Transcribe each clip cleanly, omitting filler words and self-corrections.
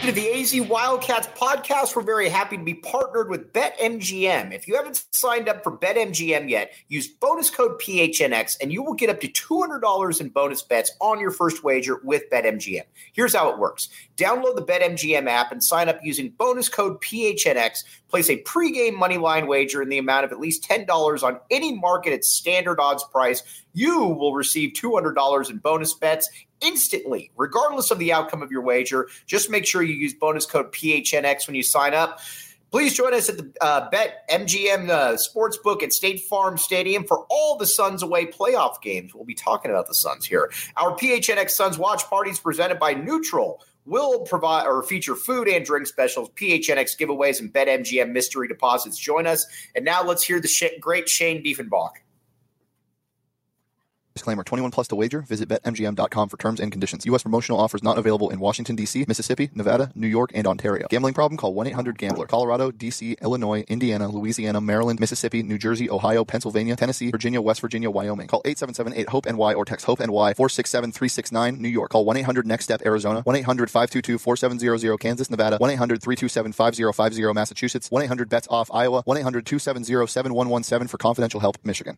To the AZ Wildcats podcast. We're very happy to be partnered with BetMGM. If you haven't signed up for BetMGM yet, use bonus code PHNX and you will get up to $200 in bonus bets on your first wager with BetMGM. Here's how it works. Download the BetMGM app and sign up using bonus code PHNX. Place a pregame moneyline wager in the amount of at least $10 on any market at standard odds price. You will receive $200 in bonus bets instantly, regardless of the outcome of your wager. Just make sure you use bonus code PHNX when you sign up. Please join us at the BetMGM Sportsbook at State Farm Stadium for all the Suns away playoff games. We'll be talking about the Suns here. Our PHNX Suns watch parties presented by Neutral will provide or feature food and drink specials, PHNX giveaways, and BetMGM mystery deposits. Join us. And now let's hear the great Shane Diefenbach. Disclaimer, 21 plus to wager. Visit BetMGM.com for terms and conditions. U.S. promotional offers not available in Washington, D.C., Mississippi, Nevada, New York, and Ontario. Gambling problem? Call 1-800-GAMBLER. Colorado, D.C., Illinois, Indiana, Louisiana, Maryland, Mississippi, New Jersey, Ohio, Pennsylvania, Tennessee, Virginia, West Virginia, Wyoming. Call 877-8-HOPE-NY or text HOPE-NY 467-369, New York. Call 1-800-NEXT-STEP, Arizona. 1-800-522-4700, Kansas, Nevada. 1-800-327-5050, Massachusetts. 1-800-BETS-OFF, Iowa. 1-800-270-7117 for confidential help, Michigan.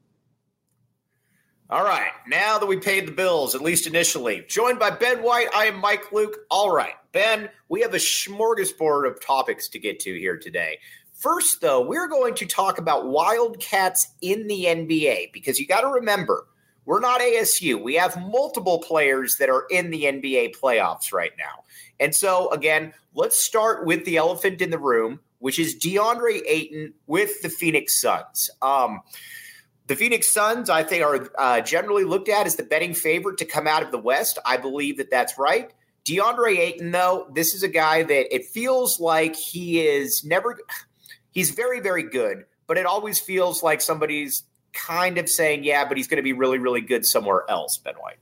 All right, now that we paid the bills, at least initially, joined by Ben White, I am Mike Luke. All right, Ben, we have a smorgasbord of topics to get to here today. First, though, we're going to talk about Wildcats in the NBA because you got to remember, we're not ASU. We have multiple players that are in the NBA playoffs right now. And so, again, let's start with the elephant in the room, which is DeAndre Ayton with the Phoenix Suns. The Phoenix Suns, I think, are generally looked at as the betting favorite to come out of the West. I believe that that's right. DeAndre Ayton, though, this is a guy that it feels like he's very, very good, but it always feels like somebody's kind of saying, yeah, but he's going to be really, really good somewhere else, Ben White.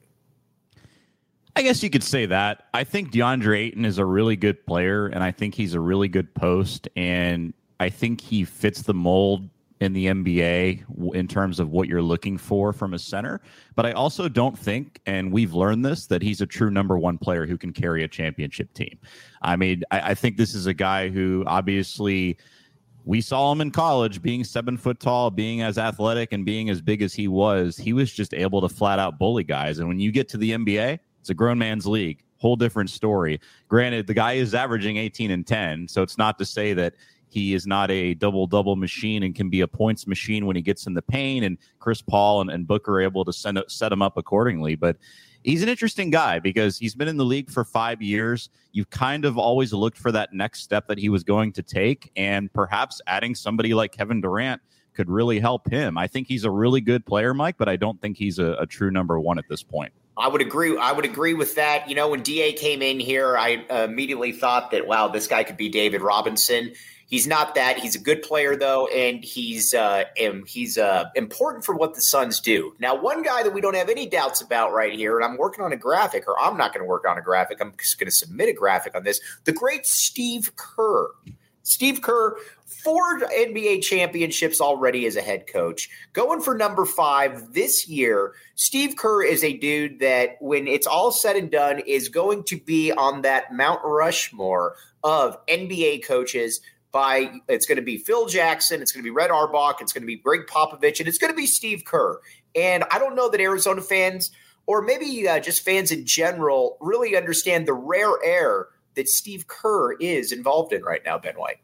I guess you could say that. I think DeAndre Ayton is a really good player, and I think he's a really good post, and I think he fits the mold in the NBA in terms of what you're looking for from a center. But I also don't think, and we've learned this, that he's a true number one player who can carry a championship team. I mean, I think this is a guy who obviously we saw him in college being 7 foot tall, being as athletic and being as big as he was just able to flat out bully guys. And when you get to the NBA, it's a grown man's league, whole different story. Granted, the guy is averaging 18 and 10. So it's not to say that he is not a double-double machine and can be a points machine when he gets in the paint, and Chris Paul and Booker are able to set him up accordingly. But he's an interesting guy because he's been in the league for 5 years. You've kind of always looked for that next step that he was going to take, and perhaps adding somebody like Kevin Durant could really help him. I think he's a really good player, Mike, but I don't think he's a true number one at this point. I would agree with that. You know, when DA came in here, I immediately thought that, wow, this guy could be David Robinson. He's not that. He's a good player, though, and he's important for what the Suns do. Now, one guy that we don't have any doubts about right here, and I'm working on a graphic, or I'm not going to work on a graphic. I'm just going to submit a graphic on this. The great Steve Kerr. Steve Kerr, 4 NBA championships already as a head coach. Going for number 5 this year, Steve Kerr is a dude that, when it's all said and done, is going to be on that Mount Rushmore of NBA coaches. It's going to be Phil Jackson, it's going to be Red Auerbach, it's going to be Greg Popovich, and it's going to be Steve Kerr. And I don't know that Arizona fans, or maybe just fans in general, really understand the rare air that Steve Kerr is involved in right now, Ben White.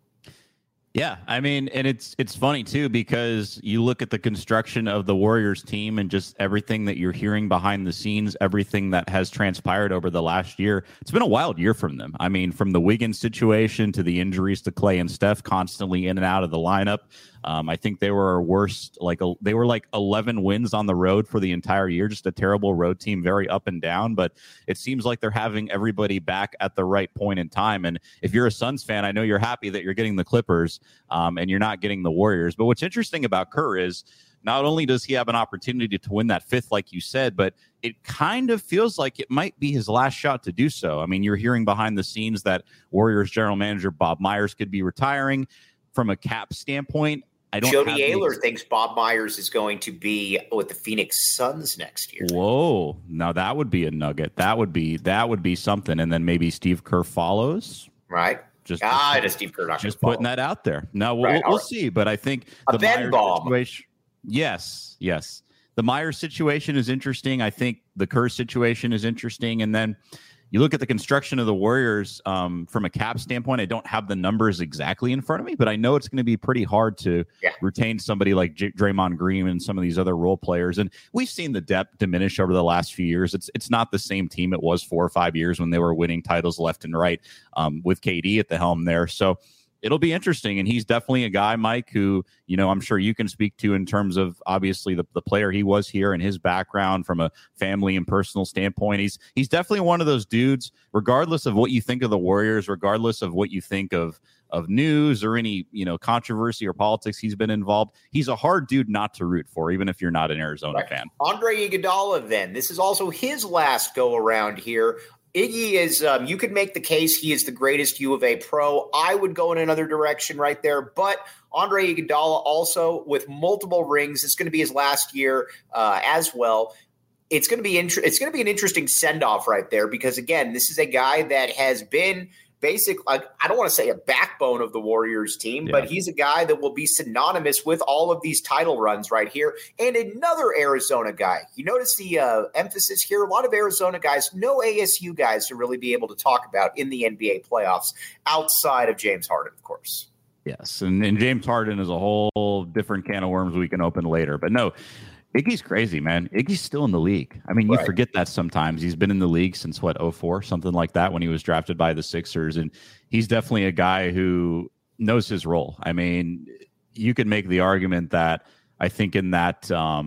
Yeah, I mean, and it's funny, too, because you look at the construction of the Warriors team and just everything that you're hearing behind the scenes, everything that has transpired over the last year. It's been a wild year from them. I mean, from the Wiggins situation to the injuries to Clay and Steph constantly in and out of the lineup. I think they were worst, they were like 11 wins on the road for the entire year, just a terrible road team, very up and down. But it seems like they're having everybody back at the right point in time. And if you're a Suns fan, I know you're happy that you're getting the Clippers and you're not getting the Warriors. But what's interesting about Kerr is not only does he have an opportunity to win that 5th, like you said, but it kind of feels like it might be his last shot to do so. I mean, you're hearing behind the scenes that Warriors general manager Bob Myers could be retiring. From a cap standpoint, I don't. Jody Ayler thinks Bob Myers is going to be with the Phoenix Suns next year. Whoa! Now that would be a nugget. That would be something. And then maybe Steve Kerr follows. Right. Just Steve Kerr not just putting that out there. No, we'll see. But I think the Ben Bomb situation. Yes. The Myers situation is interesting. I think the Kerr situation is interesting. And then you look at the construction of the Warriors from a cap standpoint. I don't have the numbers exactly in front of me, but I know it's going to be pretty hard to retain somebody like Draymond Green and some of these other role players. And we've seen the depth diminish over the last few years. It's not the same team it was 4 or 5 years when they were winning titles left and right with KD at the helm there. So it'll be interesting. And he's definitely a guy, Mike, who, I'm sure you can speak to in terms of obviously the player he was here and his background from a family and personal standpoint. He's definitely one of those dudes, regardless of what you think of the Warriors, regardless of what you think of news or any, controversy or politics he's been involved. He's a hard dude not to root for, even if you're not an Arizona fan. Andre Iguodala, then. This is also his last go around here. Iggy is, you could make the case he is the greatest U of A pro. I would go in another direction right there. But Andre Iguodala also with multiple rings. It's going to be his last year as well. It's going to be it's going to be an interesting send-off right there because, again, this is a guy that has been basically, I don't want to say a backbone of the Warriors team, but he's a guy that will be synonymous with all of these title runs right here. And another Arizona guy. You notice the emphasis here. A lot of Arizona guys, no ASU guys to really be able to talk about in the NBA playoffs outside of James Harden, of course. Yes, and James Harden is a whole different can of worms we can open later. But no, Iggy's crazy, man. Iggy's still in the league. I mean, you forget that sometimes. He's been in the league since, 2004, something like that, when he was drafted by the Sixers. And he's definitely a guy who knows his role. I mean, you could make the argument that I think in that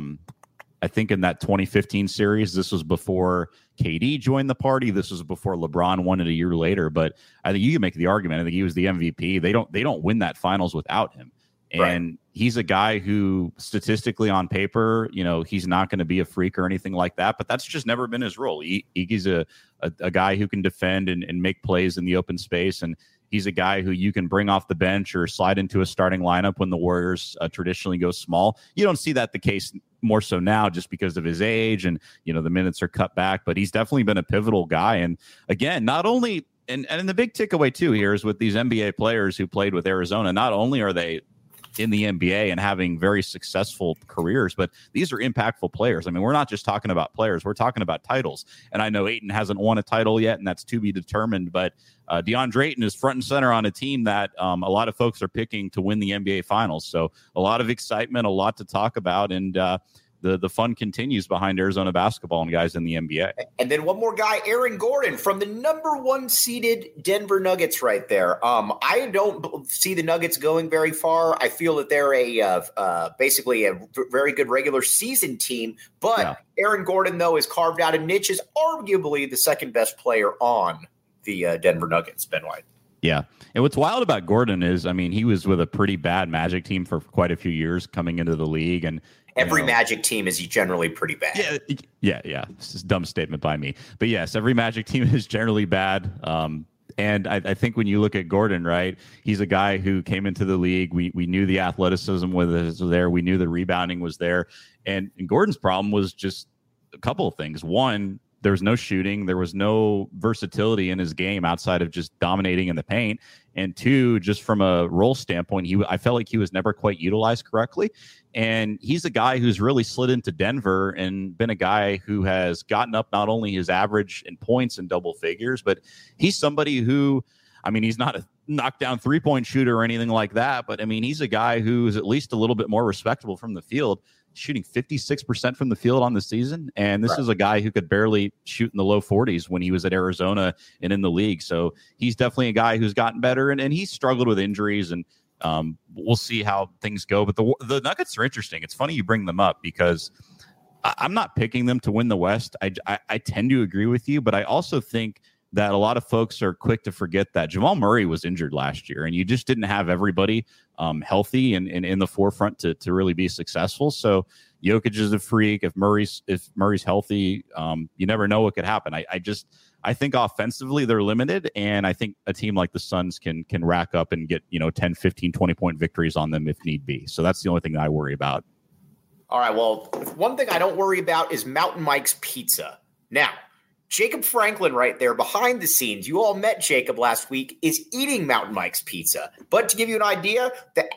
2015 series, this was before KD joined the party. This was before LeBron won it a year later. But I think you can make the argument. I think he was the MVP. They don't win that finals without him. And he's a guy who statistically on paper, he's not going to be a freak or anything like that, but that's just never been his role. Iggy's a guy who can defend and make plays in the open space. And he's a guy who you can bring off the bench or slide into a starting lineup when the Warriors traditionally go small. You don't see that the case more so now just because of his age and, the minutes are cut back, but he's definitely been a pivotal guy. And again, not only, and the big takeaway too here is with these NBA players who played with Arizona, not only are they in the NBA and having very successful careers, but these are impactful players. I mean, we're not just talking about players, we're talking about titles. And I know Ayton hasn't won a title yet, and that's to be determined, but DeAndre Ayton is front and center on a team that a lot of folks are picking to win the NBA Finals. So a lot of excitement, a lot to talk about, and the fun continues behind Arizona basketball and guys in the NBA. And then one more guy, Aaron Gordon from the number 1 seeded Denver Nuggets right there. I don't see the Nuggets going very far. I feel that they're basically a very good regular season team. But Aaron Gordon, though, is carved out a niche as arguably the second best player on the Denver Nuggets, Ben White. Yeah. And what's wild about Gordon is, I mean, he was with a pretty bad Magic team for quite a few years coming into the league. And every Magic team is generally pretty bad. Yeah. This is a dumb statement by me. But yes, every Magic team is generally bad. And I think when you look at Gordon, right, he's a guy who came into the league. We knew the athleticism was there. We knew the rebounding was there. And Gordon's problem was just a couple of things. One, there was no shooting. There was no versatility in his game outside of just dominating in the paint. And two, just from a role standpoint, I felt like he was never quite utilized correctly. And he's a guy who's really slid into Denver and been a guy who has gotten up not only his average in points in double figures, but he's somebody who, I mean, he's not a knockdown 3-point shooter or anything like that. But I mean, he's a guy who's at least a little bit more respectable from the field, shooting 56% from the field on the season. And this is a guy who could barely shoot in the low 40s when he was at Arizona and in the league. So he's definitely a guy who's gotten better, and he's struggled with injuries, and we'll see how things go. But the Nuggets are interesting. It's funny you bring them up because I'm not picking them to win the West. I tend to agree with you, but I also think that a lot of folks are quick to forget that Jamal Murray was injured last year, and you just didn't have everybody healthy and in the forefront to really be successful. So Jokic is a freak. If Murray's healthy, you never know what could happen. I think offensively they're limited, and I think a team like the Suns can rack up and get 10, 15, 20-point victories on them if need be. So that's the only thing that I worry about. All right, well, one thing I don't worry about is Mountain Mike's Pizza. Now, Jacob Franklin right there behind the scenes, you all met Jacob last week, is eating Mountain Mike's Pizza. But to give you an idea,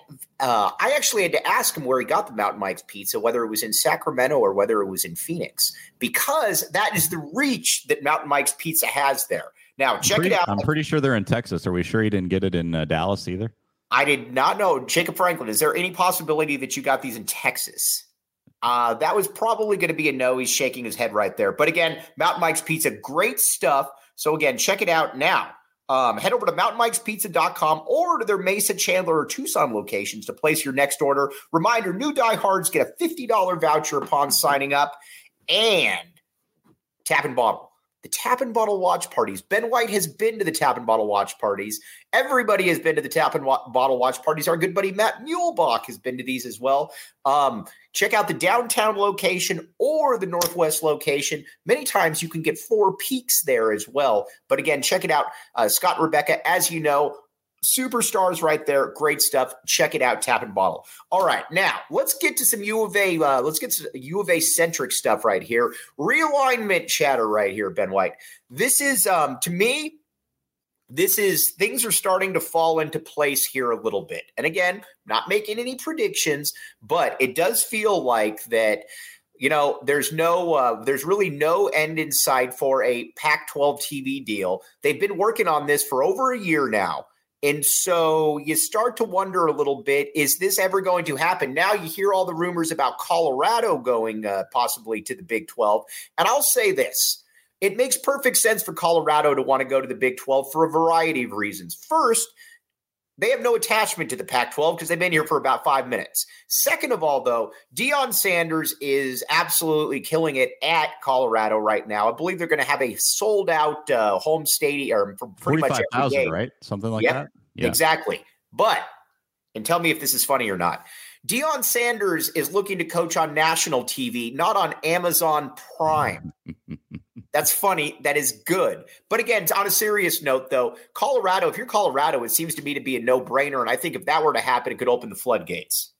I actually had to ask him where he got the Mountain Mike's Pizza, whether it was in Sacramento or whether it was in Phoenix, because that is the reach that Mountain Mike's Pizza has there. Now, check it out. I'm pretty sure they're in Texas. Are we sure he didn't get it in Dallas either? I did not know. Jacob Franklin, is there any possibility that you got these in Texas? That was probably going to be a no. He's shaking his head right there. But again, Mountain Mike's Pizza, great stuff. So again, check it out now. Head over to mountainmikespizza.com or to their Mesa, Chandler, or Tucson locations to place your next order. Reminder, new diehards get a $50 voucher upon signing up. And Tap and Bottle. The Tap and Bottle watch parties. Ben White has been to the Tap and Bottle watch parties. Everybody has been to the Tap and Bottle watch parties. Our good buddy Matt Muehlbach has been to these as well. Check out the downtown location or the northwest location. Many times you can get 4 peaks there as well. But again, check it out. Scott and Rebecca, as you know, superstars right there. Great stuff. Check it out, Tap and Bottle. All right, now let's get to some U of A. Let's get to U of A centric stuff right here. Realignment chatter right here, Ben White. This is to me. This is things are starting to fall into place here a little bit. And again, not making any predictions, but it does feel like that. There's really no end in sight for a Pac-12 TV deal. They've been working on this for over a year now. And so you start to wonder a little bit, is this ever going to happen? Now you hear all the rumors about Colorado going possibly to the Big 12. And I'll say this. It makes perfect sense for Colorado to want to go to the Big 12 for a variety of reasons. First, they have no attachment to the Pac-12 because they've been here for about 5 minutes. Second of all, though, Deion Sanders is absolutely killing it at Colorado right now. I believe they're going to have a sold-out home stadium for pretty much every game. right? Something like that? Yeah, exactly. But, and tell me if this is funny or not, Deion Sanders is looking to coach on national TV, not on Amazon Prime. That's funny. That is good. But again, on a serious note, though, Colorado, if you're Colorado, it seems to me to be a no-brainer. And I think if that were to happen, it could open the floodgates.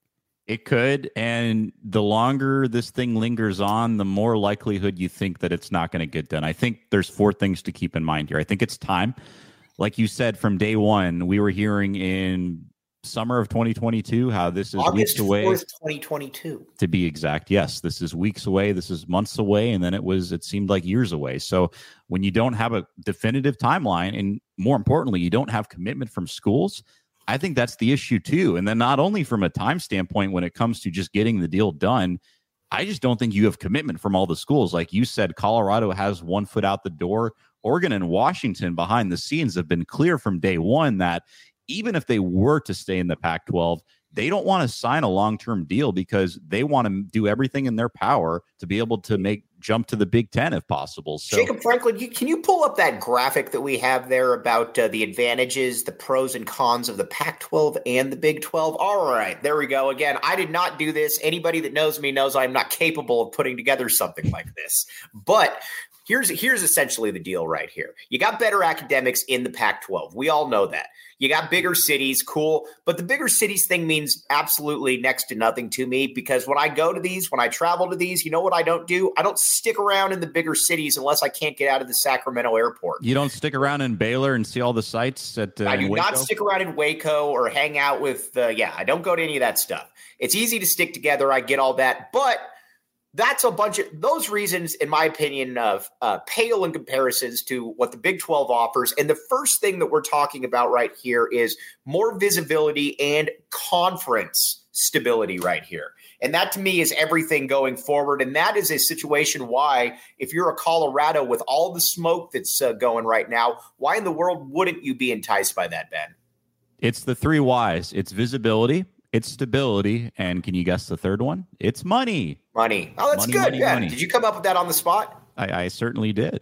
It could. And the longer this thing lingers on, the more likelihood you think that it's not going to get done. I think there's 4 things to keep in mind here. I think it's time. Like you said, from day one, we were hearing in summer of 2022 how this is August weeks away. 4th, 2022 to be exact. Yes, this is weeks away, this is months away, and then it seemed like years away. So when you don't have a definitive timeline, and more importantly, you don't have commitment from schools, I think that's the issue too. And then not only from a time standpoint when it comes to just getting the deal done, I just don't think you have commitment from all the schools. Like you said, Colorado has 1 foot out the door. Oregon and Washington behind the scenes have been clear from day one that even if they were to stay in the Pac-12, they don't want to sign a long-term deal because they want to do everything in their power to be able to jump to the Big Ten if possible. So, Jacob Franklin, can you pull up that graphic that we have there about the advantages, the pros and cons of the Pac-12 and the Big 12? All right, there we go. Again, I did not do this. Anybody that knows me knows I'm not capable of putting together something like this. But here's essentially the deal right here. You got better academics in the Pac-12. We all know that. You got bigger cities, cool. But the bigger cities thing means absolutely next to nothing to me because when I go to these, when I travel to these, you know what I don't do? I don't stick around in the bigger cities unless I can't get out of the Sacramento airport. You don't stick around in Baylor and see all the sites at I do Waco? not stick around in Waco or hang out with, I don't go to any of that stuff. It's easy to stick together. I get all that. But that's a bunch of those reasons, in my opinion, pale in comparisons to what the Big 12 offers. And the first thing that we're talking about right here is more visibility and conference stability right here. And that to me is everything going forward. And that is a situation why, if you're a Colorado with all the smoke that's going right now, why in the world wouldn't you be enticed by that, Ben? It's the 3 Ys. It's visibility, it's stability, and can you guess the third one? It's money. Money. Oh, that's good. Money, yeah. money. Did you come up with that on the spot? I certainly did.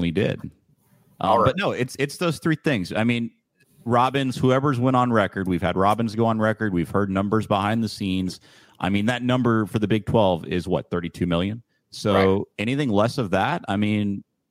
All right. But no, it's those 3 things. I mean, Robbins, whoever's went on record, we've had Robbins go on record. We've heard numbers behind the scenes. I mean, that number for the Big 12 is what, 32 million? So anything less of that, I mean,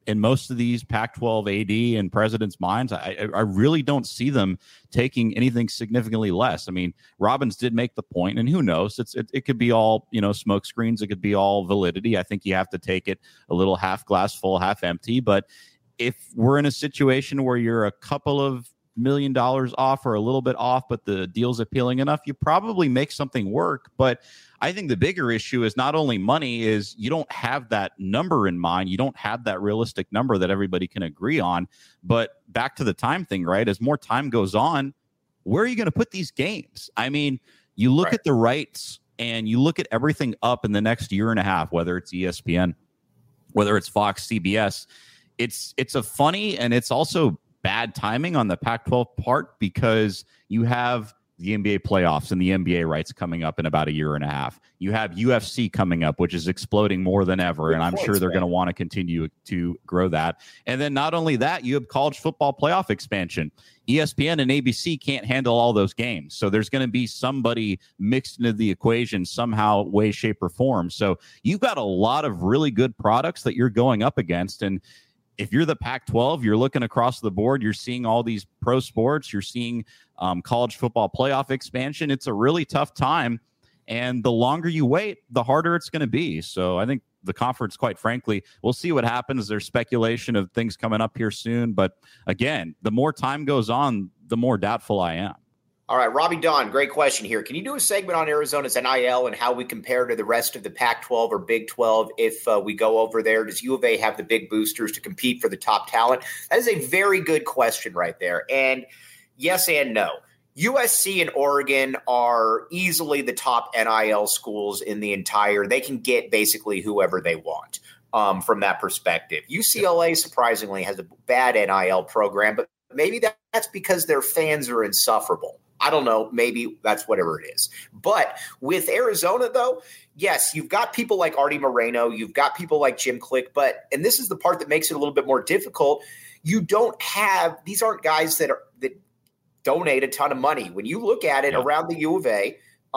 in most of these Pac-12 AD and presidents' minds, I really don't see them taking anything significantly less. I mean, Robbins did make the point, and who knows? It could be all, smoke screens. It could be all validity. I think you have to take it a little half glass full, half empty. But if we're in a situation where you're a couple of $1 million off or a little bit off, but the deal's appealing enough, you probably make something work. But I think the bigger issue is not only money, is you don't have that number in mind. You don't have that realistic number that everybody can agree on. But back to the time thing, right? As more time goes on, where are you going to put these games? I mean, you look at the rights and you look at everything up in the next year and a half, whether it's ESPN, whether it's Fox, CBS. It's a funny, and it's also bad timing on the Pac-12 part, because you have the NBA playoffs and the NBA rights coming up in about a year and a half. You have UFC coming up, which is exploding more than ever. And I'm sure they're going to want to continue to grow that. And then not only that, you have college football playoff expansion. ESPN and ABC can't handle all those games. So there's going to be somebody mixed into the equation somehow, way, shape, or form. So you've got a lot of really good products that you're going up against. And if you're the Pac-12, you're looking across the board, you're seeing all these pro sports, you're seeing college football playoff expansion. It's a really tough time. And the longer you wait, the harder it's going to be. So I think the conference, quite frankly, we'll see what happens. There's speculation of things coming up here soon. But again, the more time goes on, the more doubtful I am. All right, Robbie Don, great question here. Can you do a segment on Arizona's NIL and how we compare to the rest of the Pac-12 or Big 12 if we go over there? Does U of A have the big boosters to compete for the top talent? That is a very good question right there. And yes and no. USC and Oregon are easily the top NIL schools in the entire – they can get basically whoever they want from that perspective. UCLA, surprisingly, has a bad NIL program, but maybe that's because their fans are insufferable. I don't know. Maybe that's whatever it is. But with Arizona, though, yes, you've got people like Artie Moreno. You've got people like Jim Click. And this is the part that makes it a little bit more difficult. You don't have – these aren't guys that donate a ton of money. When you look at it around the U of A,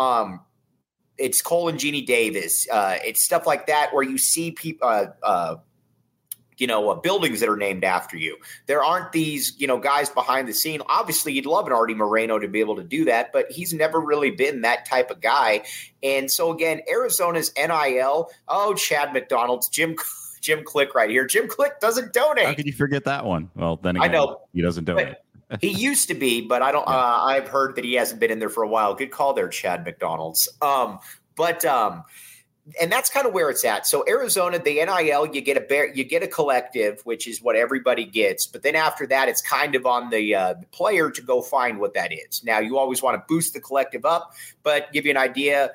it's Cole and Jeannie Davis. It's stuff like that where you see people buildings that are named after you. There aren't these, guys behind the scene. Obviously, you'd love an Artie Moreno to be able to do that, but he's never really been that type of guy. And so, again, Arizona's NIL, Chad McDonald's, Jim Click right here. Jim Click doesn't donate. How could you forget that one? Well, then again, I know he doesn't donate. He used to be, but I don't. I've heard that he hasn't been in there for a while. Good call there, Chad McDonald's. And that's kind of where it's at. So Arizona, the NIL, you get a collective, which is what everybody gets. But then after that, it's kind of on the player to go find what that is. Now, you always want to boost the collective up, but give you an idea.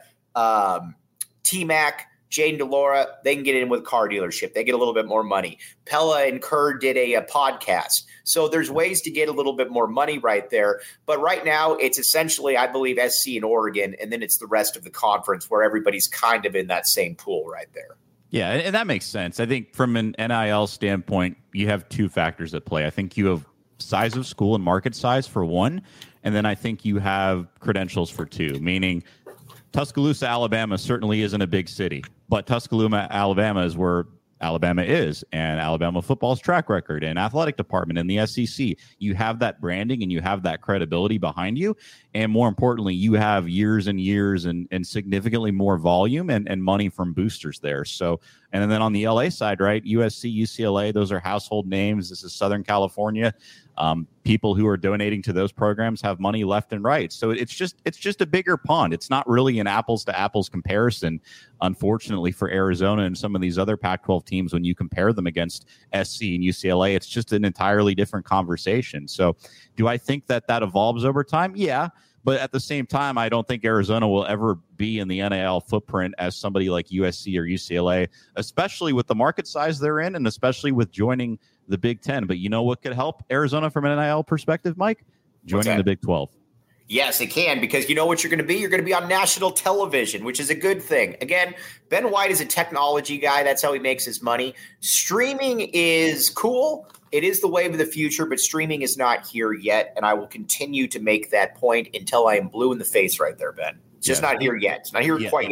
T-Mac, Jaden DeLaura, they can get in with a car dealership. They get a little bit more money. Pella and Kerr did a podcast. So there's ways to get a little bit more money right there. But right now, it's essentially, I believe, SC and Oregon, and then it's the rest of the conference where everybody's kind of in that same pool right there. Yeah, and that makes sense. I think from an NIL standpoint, you have two factors at play. I think you have size of school and market size for one, and then I think you have credentials for two, meaning Tuscaloosa, Alabama certainly isn't a big city, but Tuscaloosa, Alabama is where Alabama is, and Alabama football's track record and athletic department and the SEC. You have that branding and you have that credibility behind you. And more importantly, you have years and years and significantly more volume and money from boosters there. So, and then on the LA side, right, USC, UCLA, those are household names. This is Southern California. People who are donating to those programs have money left and right. So it's just a bigger pond. It's not really an apples to apples comparison, unfortunately, for Arizona and some of these other Pac-12 teams. When you compare them against SC and UCLA, it's just an entirely different conversation. So do I think that evolves over time? Yeah. But at the same time, I don't think Arizona will ever be in the NIL footprint as somebody like USC or UCLA, especially with the market size they're in and especially with joining the Big Ten. But you know what could help Arizona from an NIL perspective, Mike? Joining the Big 12. Yes, it can, because you know what you're going to be? You're going to be on national television, which is a good thing. Again, Ben White is a technology guy. That's how he makes his money. Streaming is cool. It is the wave of the future, but streaming is not here yet, and I will continue to make that point until I am blue in the face right there, Ben. It's just not here yet. It's not here quite yet.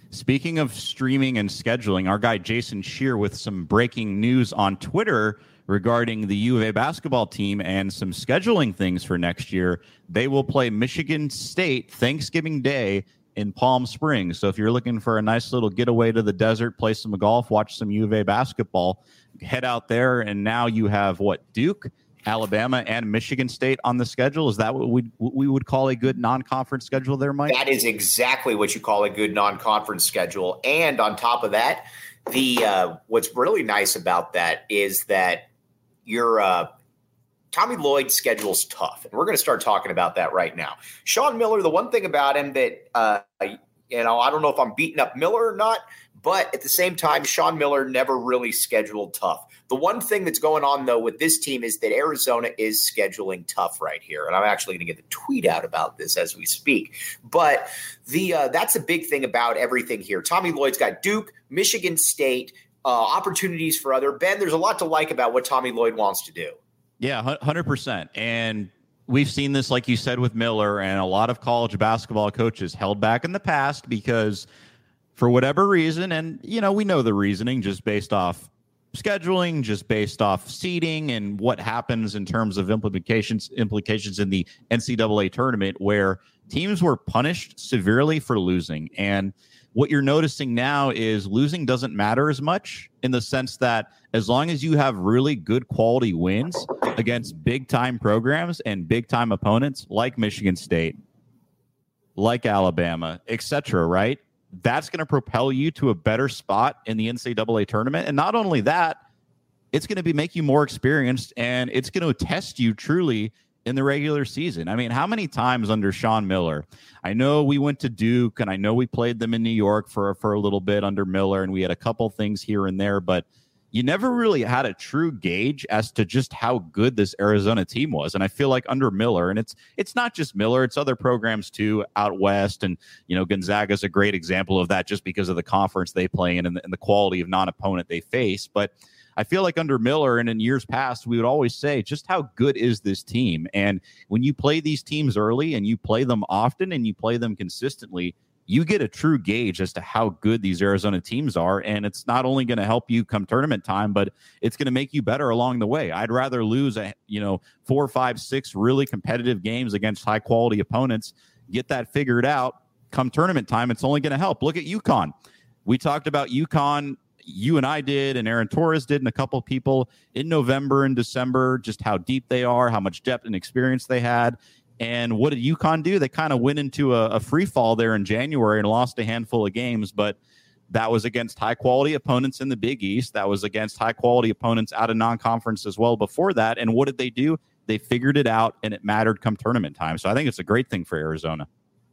Speaking of streaming and scheduling, our guy Jason Shear with some breaking news on Twitter regarding the U of A basketball team and some scheduling things for next year. They will play Michigan State Thanksgiving Day in Palm Springs. So if you're looking for a nice little getaway to the desert, play some golf, watch some U of A basketball, head out there. And now you have Duke, Alabama, and Michigan State on the schedule. Is that what we would call a good non-conference schedule there, Mike? That is exactly what you call a good non-conference schedule. And on top of that, the what's really nice about that is that your Tommy Lloyd's schedule's tough. And we're going to start talking about that right now. Sean Miller, the one thing about him that, I don't know if I'm beating up Miller or not, but at the same time, Sean Miller never really scheduled tough. The one thing that's going on, though, with this team is that Arizona is scheduling tough right here. And I'm actually going to get the tweet out about this as we speak. But that's a big thing about everything here. Tommy Lloyd's got Duke, Michigan State, opportunities for other. Ben, there's a lot to like about what Tommy Lloyd wants to do. Yeah, 100%. And we've seen this, like you said, with Miller, and a lot of college basketball coaches held back in the past because for whatever reason, and, we know the reasoning just based off scheduling, just based off seeding and what happens in terms of implications in the NCAA tournament, where teams were punished severely for losing. And what you're noticing now is losing doesn't matter as much, in the sense that as long as you have really good quality wins against big time programs and big time opponents like Michigan State, like Alabama, etc., right? That's going to propel you to a better spot in the NCAA tournament. And not only that, it's going to make you more experienced, and it's going to test you truly in the regular season. I mean, how many times under Sean Miller? I know we went to Duke, and I know we played them in New York for a little bit under Miller, and we had a couple things here and there, but you never really had a true gauge as to just how good this Arizona team was. And I feel like under Miller, and it's not just Miller, it's other programs too out west. And, Gonzaga is a great example of that just because of the conference they play in and the quality of non-opponent they face. But I feel like under Miller and in years past, we would always say, just how good is this team? And when you play these teams early and you play them often and you play them consistently, you get a true gauge as to how good these Arizona teams are. And it's not only going to help you come tournament time, but it's going to make you better along the way. I'd rather lose 4, 5, 6 really competitive games against high quality opponents, get that figured out. Come tournament time, it's only going to help. Look at UConn. We talked about UConn. You and I did, and Aaron Torres did, and a couple of people in November and December, just how deep they are, how much depth and experience they had. And what did UConn do? They kind of went into a free fall there in January and lost a handful of games, but that was against high-quality opponents in the Big East. That was against high-quality opponents out of non-conference as well before that. And what did they do? They figured it out, and it mattered come tournament time. So I think it's a great thing for Arizona.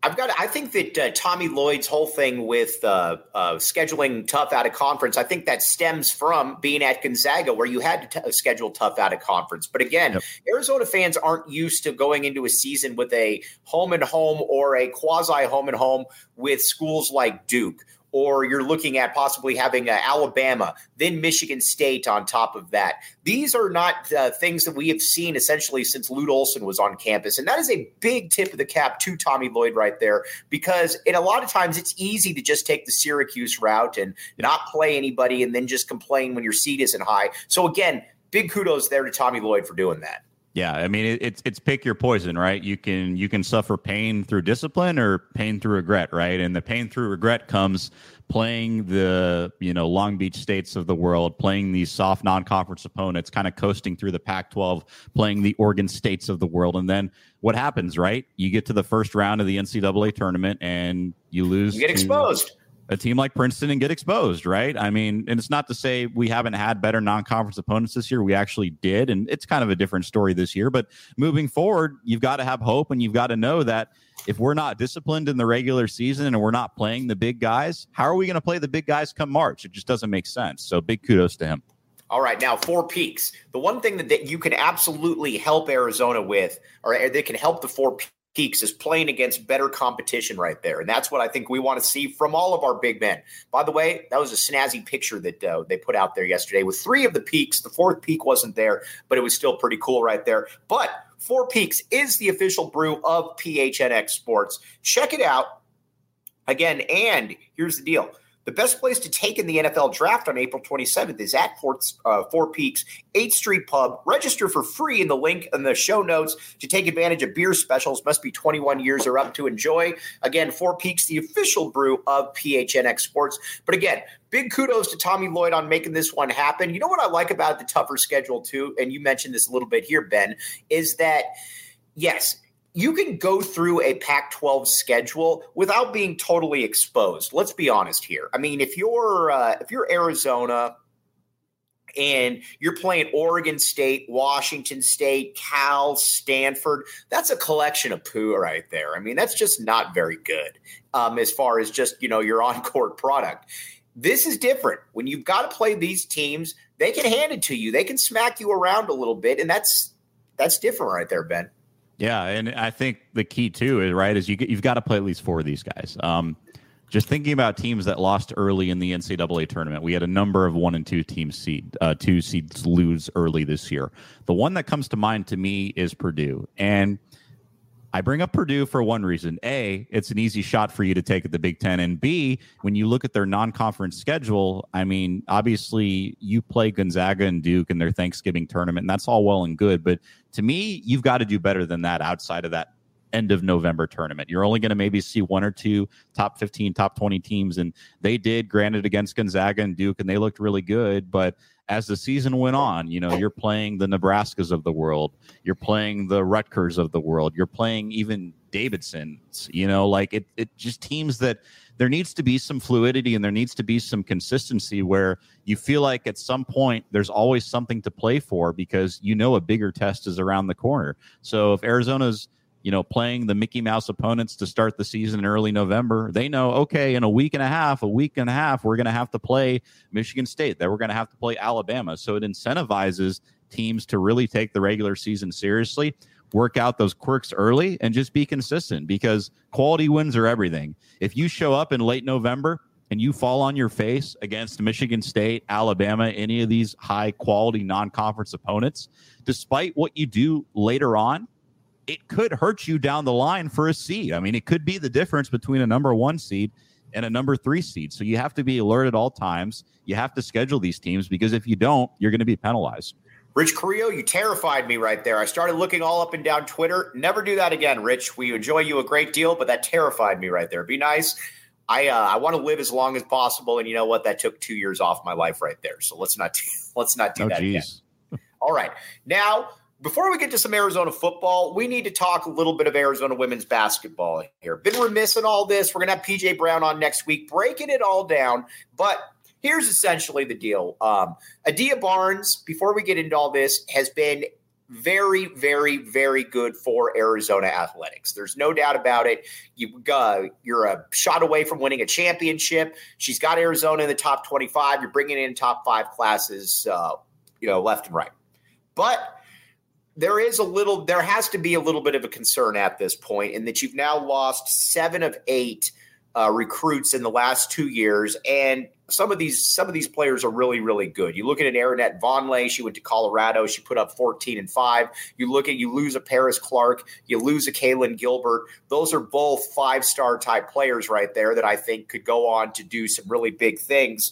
I think that Tommy Lloyd's whole thing with scheduling tough out of conference, I think that stems from being at Gonzaga, where you had to schedule tough out of conference. But again, Arizona fans aren't used to going into a season with a home and home or a quasi home and home with schools like Duke. Or you're looking at possibly having Alabama, then Michigan State on top of that. These are not things that we have seen essentially since Lute Olson was on campus. And that is a big tip of the cap to Tommy Lloyd right there, because a lot of times it's easy to just take the Syracuse route and not play anybody and then just complain when your seed isn't high. So again, big kudos there to Tommy Lloyd for doing that. Yeah, I mean, it's pick your poison, right? You can suffer pain through discipline or pain through regret, right? And the pain through regret comes playing the Long Beach States of the world, playing these soft non-conference opponents, kind of coasting through the Pac-12, playing the Oregon States of the world, and then what happens, right? You get to the first round of the NCAA tournament and you lose. You get exposed. A team like Princeton and get exposed, right? I mean, and it's not to say we haven't had better non-conference opponents this year. We actually did, and it's kind of a different story this year. But moving forward, you've got to have hope, and you've got to know that if we're not disciplined in the regular season and we're not playing the big guys, how are we going to play the big guys come March? It just doesn't make sense. So big kudos to him. All right, now Four Peaks. The one thing that you can absolutely help Arizona with, or they can help the Four Peaks, is playing against better competition right there. And that's what I think we want to see from all of our big men. By the way, that was a snazzy picture that they put out there yesterday with 3 of the peaks. The 4th peak wasn't there, but it was still pretty cool right there. But Four Peaks is the official brew of PHNX Sports. Check it out. Again, and here's the deal. The best place to take in the NFL draft on April 27th is at Four Peaks 8th Street Pub. Register for free in the link in the show notes to take advantage of beer specials. Must be 21 years or up to enjoy. Again, Four Peaks, the official brew of PHNX Sports. But again, big kudos to Tommy Lloyd on making this one happen. You know what I like about the tougher schedule too, and you mentioned this a little bit here, Ben, is that, yes, you can go through a Pac-12 schedule without being totally exposed. Let's be honest here. I mean, if you're Arizona and you're playing Oregon State, Washington State, Cal, Stanford, that's a collection of poo right there. I mean, that's just not very good as far as just, your on-court product. This is different. When you've got to play these teams, they can hand it to you. They can smack you around a little bit, and that's different right there, Ben. Yeah, and I think the key too is you've got to play at least 4 of these guys. Just thinking about teams that lost early in the NCAA tournament, we had a number of 1 and 2 teams 2 seeds lose early this year. The one that comes to mind to me is Purdue, and I bring up Purdue for one reason. A, it's an easy shot for you to take at the Big Ten. And B, when you look at their non-conference schedule, I mean, obviously you play Gonzaga and Duke in their Thanksgiving tournament, and that's all well and good. But to me, you've got to do better than that outside of that end of November tournament. You're only going to maybe see 1 or 2 top 15, top 20 teams. And they did, granted, against Gonzaga and Duke, and they looked really good. But as the season went on, you're playing the Nebraskas of the world. You're playing the Rutgers of the world. You're playing even Davidson's, it just teams that there needs to be some fluidity and there needs to be some consistency where you feel like at some point there's always something to play for because a bigger test is around the corner. So if Arizona's playing the Mickey Mouse opponents to start the season in early November, they know, okay, in a week and a half, we're going to have to play Michigan State. Then we're going to have to play Alabama. So it incentivizes teams to really take the regular season seriously, work out those quirks early, and just be consistent because quality wins are everything. If you show up in late November and you fall on your face against Michigan State, Alabama, any of these high-quality non-conference opponents, despite what you do later on, it could hurt you down the line for a seed. I mean, it could be the difference between a number 1 seed and a number 3 seed. So you have to be alert at all times. You have to schedule these teams because if you don't, you're going to be penalized. Rich Carrillo, you terrified me right there. I started looking all up and down Twitter. Never do that again, Rich. We enjoy you a great deal, but that terrified me right there. Be nice. I want to live as long as possible, and you know what? That took 2 years off my life right there. So let's not do that again. All right. Now, before we get to some Arizona football, we need to talk a little bit of Arizona women's basketball here. Been remiss in all this. We're going to have PJ Brown on next week, breaking it all down. But here's essentially the deal. Adia Barnes, before we get into all this, has been very, very, very good for Arizona athletics. There's no doubt about it. You're a shot away from winning a championship. She's got Arizona in the top 25. You're bringing in top 5 classes, left and right. But there has to be a little bit of a concern at this point in that you've now lost 7 of 8 recruits in the last 2 years, and some of these players are really, really good. You look at an Arinette Vonleh, she went to Colorado, she put up 14 and 5. You lose a Paris Clark, you lose a Kaylin Gilbert. Those are both 5-star type players right there that I think could go on to do some really big things.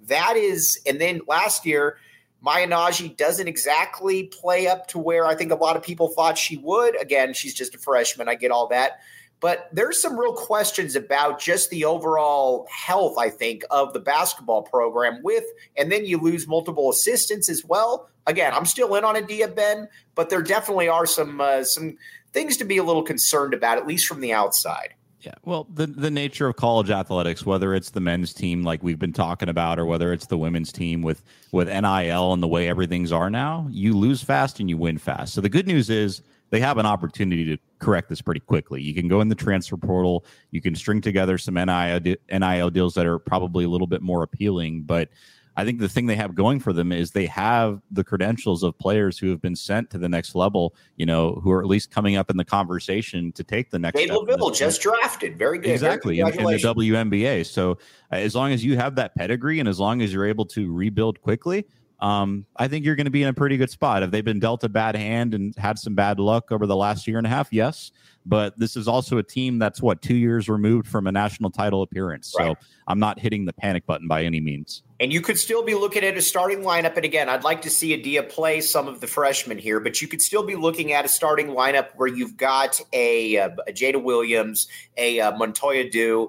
And then last year, Maya Nagy doesn't exactly play up to where I think a lot of people thought she would. Again, she's just a freshman. I get all that. But there's some real questions about just the overall health, I think, of the basketball program and then you lose multiple assistants as well. Again, I'm still in on Adia, Ben, but there definitely are some things to be a little concerned about, at least from the outside. Yeah, well, the nature of college athletics, whether it's the men's team like we've been talking about or whether it's the women's team with NIL and the way everything's are now, you lose fast and you win fast. So the good news is they have an opportunity to correct this pretty quickly. You can go in the transfer portal. You can string together some NIL deals that are probably a little bit more appealing, but I think the thing they have going for them is they have the credentials of players who have been sent to the next level, who are at least coming up in the conversation to take the next step. Dave LaVille just drafted. Very good. Exactly. In the WNBA. So as long as you have that pedigree and as long as you're able to rebuild quickly, I think you're going to be in a pretty good spot. Have they been dealt a bad hand and had some bad luck over the last year and a half? Yes. But this is also a team that's 2 years removed from a national title appearance. Right. So I'm not hitting the panic button by any means. And you could still be looking at a starting lineup. And again, I'd like to see Adia play some of the freshmen here, but you could still be looking at a starting lineup where you've got a Jada Williams, a Montoya Dew,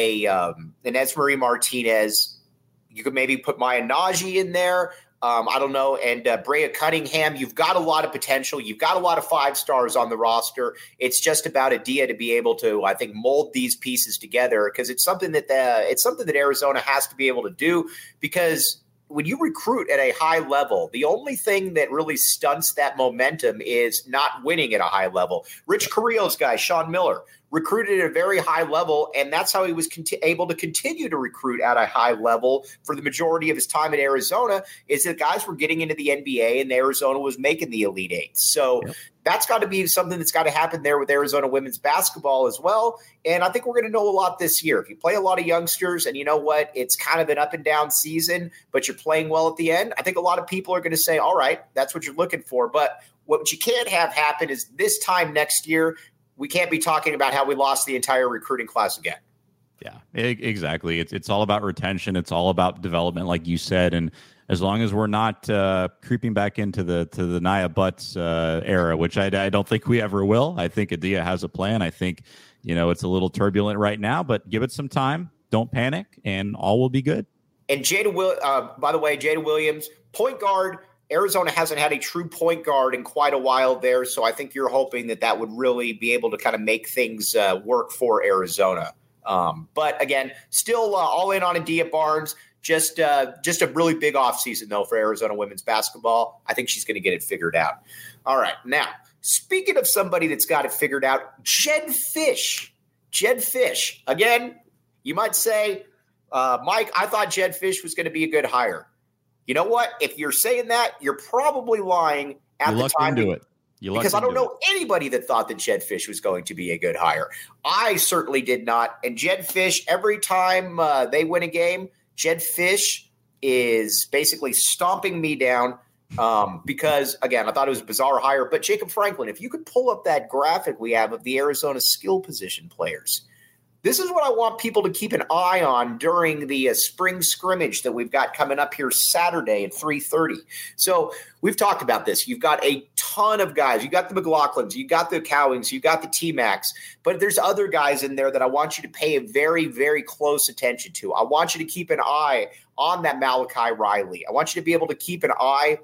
an Esmery Martinez. You could maybe put Maya Najee in there. I don't know. And Brea Cunningham, you've got a lot of potential. You've got a lot of 5 stars on the roster. It's just about Adia to be able to, I think, mold these pieces together, because it's something that Arizona has to be able to do, because when you recruit at a high level, the only thing that really stunts that momentum is not winning at a high level. Rich Carrillo's guy, Sean Miller, recruited at a very high level, and that's how he was able to continue to recruit at a high level for the majority of his time at Arizona, is that guys were getting into the NBA and Arizona was making the Elite Eight. So that's got to be something that's got to happen there with Arizona women's basketball as well. And I think we're going to know a lot this year. If you play a lot of youngsters and you know what, it's kind of an up and down season, but you're playing well at the end, I think a lot of people are going to say, all right, that's what you're looking for. But what you can't have happen is this time next year, we can't be talking about how we lost the entire recruiting class again. Yeah, exactly. It's all about retention. It's all about development, like you said. And as long as we're not creeping back into the Nia Butts era, which I don't think we ever will. I think Adia has a plan. I think, it's a little turbulent right now, but give it some time. Don't panic, and all will be good. And by the way, Jada Williams, point guard. Arizona hasn't had a true point guard in quite a while there, so I think you're hoping that would really be able to kind of make things work for Arizona. But again, still all in on Adia Barnes. Just a really big offseason, though, for Arizona women's basketball. I think she's going to get it figured out. All right, now, speaking of somebody that's got it figured out, Jedd Fisch. Jedd Fisch. Again, you might say, Mike, I thought Jedd Fisch was going to be a good hire. You know what? If you're saying that, you're probably lying at the time. Because I don't know anybody that thought that Jedd Fisch was going to be a good hire. I certainly did not. And Jedd Fisch, every time they win a game, Jedd Fisch is basically stomping me down because, again, I thought it was a bizarre hire. But Jacob Franklin, if you could pull up that graphic we have of the Arizona skill position players, this is what I want people to keep an eye on during the spring scrimmage that we've got coming up here Saturday at 3:30. So we've talked about this. You've got a ton of guys. You got the McLaughlins, you got the Cowings, you got the T-Macs, but there's other guys in there that I want you to pay a very, very close attention to. I want you to keep an eye on that Malachi Riley. I want you to be able to keep an eye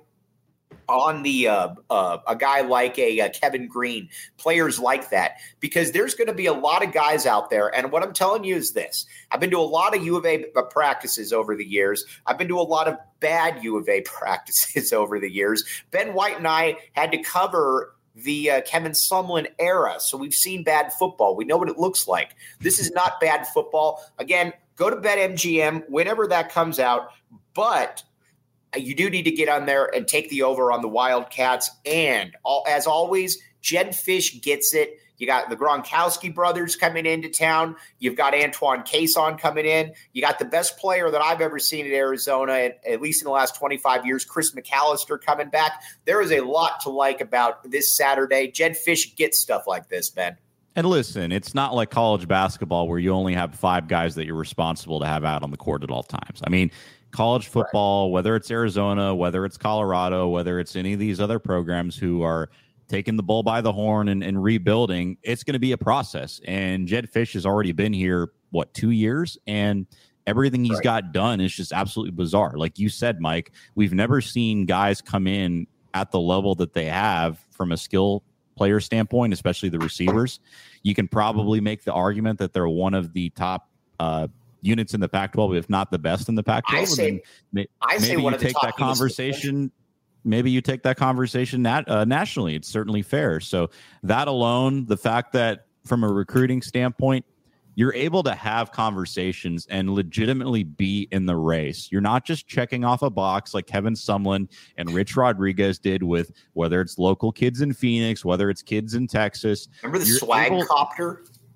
on the a guy like a Kevin Green, players like that, because there's going to be a lot of guys out there. And what I'm telling you is this. I've been to a lot of U of A practices over the years. I've been to a lot of bad U of A practices over the years. Ben White and I had to cover the Kevin Sumlin era. So we've seen bad football. We know what it looks like. This is not bad football. Again, go to BetMGM whenever that comes out. But you do need to get on there and take the over on the Wildcats. And as always, Jedd Fisch gets it. You got the Gronkowski brothers coming into town. You've got Antoine Cason coming in. You got the best player that I've ever seen at Arizona, at least in the last 25 years, Chris McAllister coming back. There is a lot to like about this Saturday. Jedd Fisch gets stuff like this, Ben. And listen, it's not like college basketball where you only have 5 guys that you're responsible to have out on the court at all times. I mean, college football, whether it's Arizona, whether it's Colorado, whether it's any of these other programs who are taking the bull by the horn and rebuilding, it's going to be a process. And Jedd Fisch has already been here, 2 years? And everything he's got done is just absolutely bizarre. Like you said, Mike, we've never seen guys come in at the level that they have from a skill player standpoint, especially the receivers. You can probably make the argument that they're one of the top units in the Pac-12, if not the best in the Pac-12. I say one of the top conversation. Maybe you take that conversation nationally. It's certainly fair. So that alone, the fact that from a recruiting standpoint, you're able to have conversations and legitimately be in the race. You're not just checking off a box like Kevin Sumlin and Rich Rodriguez did with whether it's local kids in Phoenix, whether it's kids in Texas. Remember the swag copter?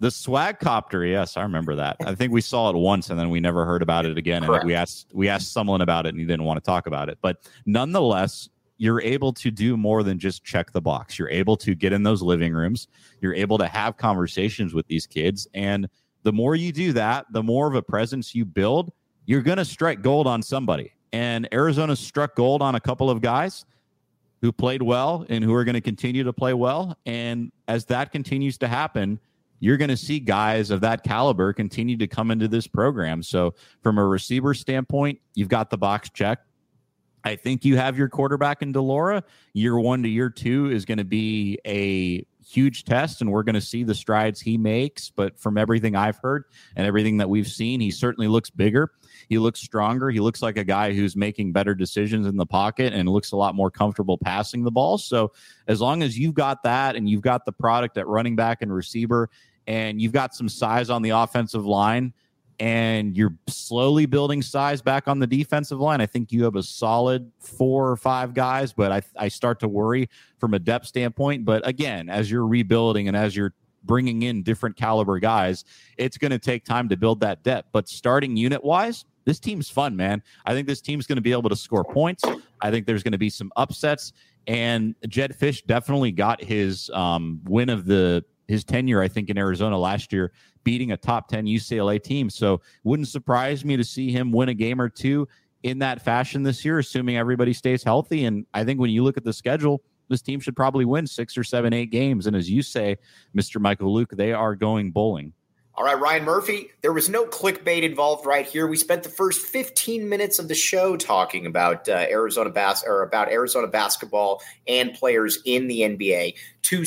The swag copter, yes, I remember that. I think we saw it once and then we never heard about it again. Correct. And we asked someone about it and he didn't want to talk about it. But nonetheless, you're able to do more than just check the box. You're able to get in those living rooms. You're able to have conversations with these kids. And the more you do that, the more of a presence you build, you're going to strike gold on somebody. And Arizona struck gold on a couple of guys who played well and who are going to continue to play well. And as that continues to happen, you're going to see guys of that caliber continue to come into this program. So from a receiver standpoint, you've got the box checked. I think you have your quarterback in Delora. Year 1 to year 2 is going to be a huge test, and we're going to see the strides he makes. But from everything I've heard and everything that we've seen, he certainly looks bigger. He looks stronger. He looks like a guy who's making better decisions in the pocket and looks a lot more comfortable passing the ball. So as long as you've got that and you've got the product at running back and receiver, and you've got some size on the offensive line, and you're slowly building size back on the defensive line, I think you have a solid 4 or 5 guys, but I start to worry from a depth standpoint. But again, as you're rebuilding and as you're bringing in different caliber guys, it's going to take time to build that depth. But starting unit-wise, this team's fun, man. I think this team's going to be able to score points. I think there's going to be some upsets. And Jedd Fisch definitely got his win of his tenure, I think, in Arizona last year, beating a top 10 UCLA team. So wouldn't surprise me to see him win a game or two in that fashion this year, assuming everybody stays healthy. And I think when you look at the schedule, this team should probably win 6 or 7, 8 games. And as you say, Mr. Michael Luke, they are going bowling. All right, Ryan Murphy, there was no clickbait involved right here. We spent the first 15 minutes of the show talking about Arizona basketball and players in the NBA. To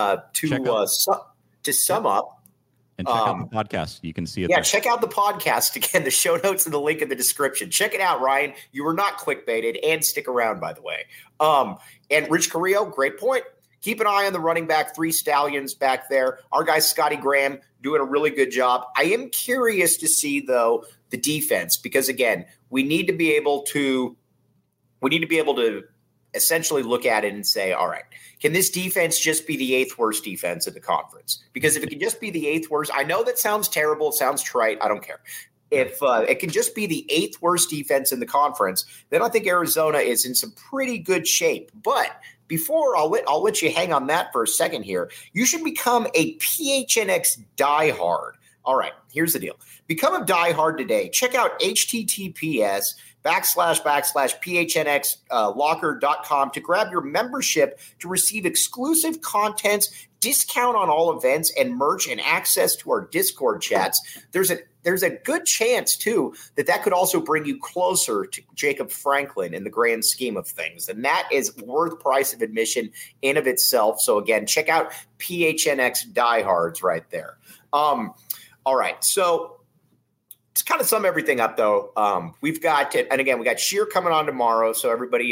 sum up, and check out the podcast. You can see it. Yeah, there. check out the podcast. Again, the show notes and the link in the description. Check it out, Ryan. You were not clickbaited, and stick around, by the way. And Rich Carrillo, great point. Keep an eye on the running back, 3 Stallions back there. Our guy Scotty Graham doing a really good job. I am curious to see, though, the defense, because again, we need to be able to essentially look at it and say, all right, can this defense just be the 8th worst defense in the conference? Because if it can just be the 8th worst, I know that sounds terrible, it sounds trite, I don't care. If it can just be the 8th worst defense in the conference, then I think Arizona is in some pretty good shape. But before I'll let you hang on that for a second here, you should become a PHNX diehard. All right, here's the deal. Become a diehard today. Check out https://phnxlocker.com to grab your membership to receive exclusive content, discount on all events, and merch, and access to our Discord chats. There's a good chance, too, that could also bring you closer to Jacob Franklin in the grand scheme of things. And that is worth price of admission in of itself. So, again, check out PHNX Diehards right there. All right. So, to kind of sum everything up, though, we've got – and, again, we got Sheer coming on tomorrow. So, everybody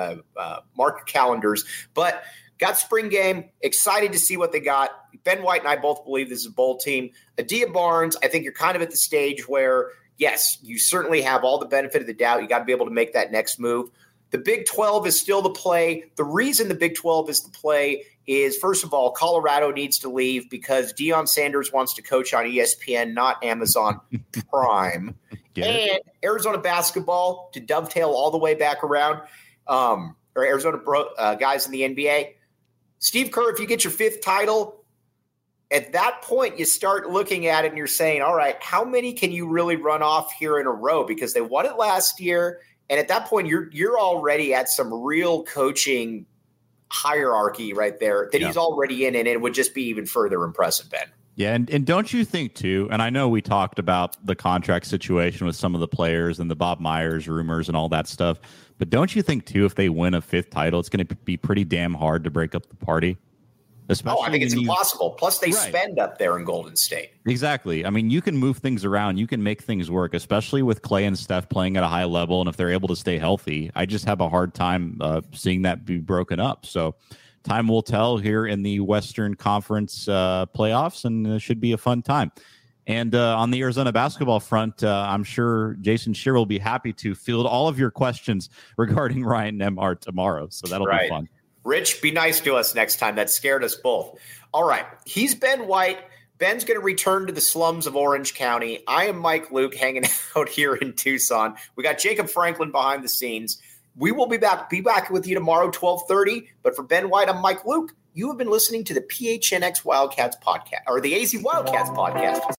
mark your calendars. But – got spring game, excited to see what they got. Ben White and I both believe this is a bowl team. Adia Barnes, I think you're kind of at the stage where, yes, you certainly have all the benefit of the doubt. You got to be able to make that next move. The Big 12 is still the play. The reason the Big 12 is the play is, first of all, Colorado needs to leave because Deion Sanders wants to coach on ESPN, not Amazon Prime. And Arizona basketball, to dovetail all the way back around, or Arizona guys in the NBA, Steve Kerr, if you get your 5th title, at that point you start looking at it and you're saying, all right, how many can you really run off here in a row? Because they won it last year, and at that point you're already at some real coaching hierarchy right there that he's already in, and it would just be even further impressive, Ben. Yeah, and don't you think, too, and I know we talked about the contract situation with some of the players and the Bob Myers rumors and all that stuff, but don't you think, too, if they win a 5th title, it's going to be pretty damn hard to break up the party? Especially I think it's impossible. Plus, they spend up there in Golden State. Exactly. I mean, you can move things around. You can make things work, especially with Clay and Steph playing at a high level, and if they're able to stay healthy. I just have a hard time seeing that be broken up. So time will tell here in the Western Conference playoffs, and it should be a fun time. And on the Arizona basketball front, I'm sure Jason Shearer will be happy to field all of your questions regarding Ryan Nembhard tomorrow. So that'll be fun. Rich, be nice to us next time. That scared us both. All right. He's Ben White. Ben's going to return to the slums of Orange County. I am Mike Luke hanging out here in Tucson. We got Jacob Franklin behind the scenes. We will be back with you tomorrow, 12:30. But for Ben White, I'm Mike Luke. You have been listening to the PHNX Wildcats podcast, or the AZ Wildcats podcast.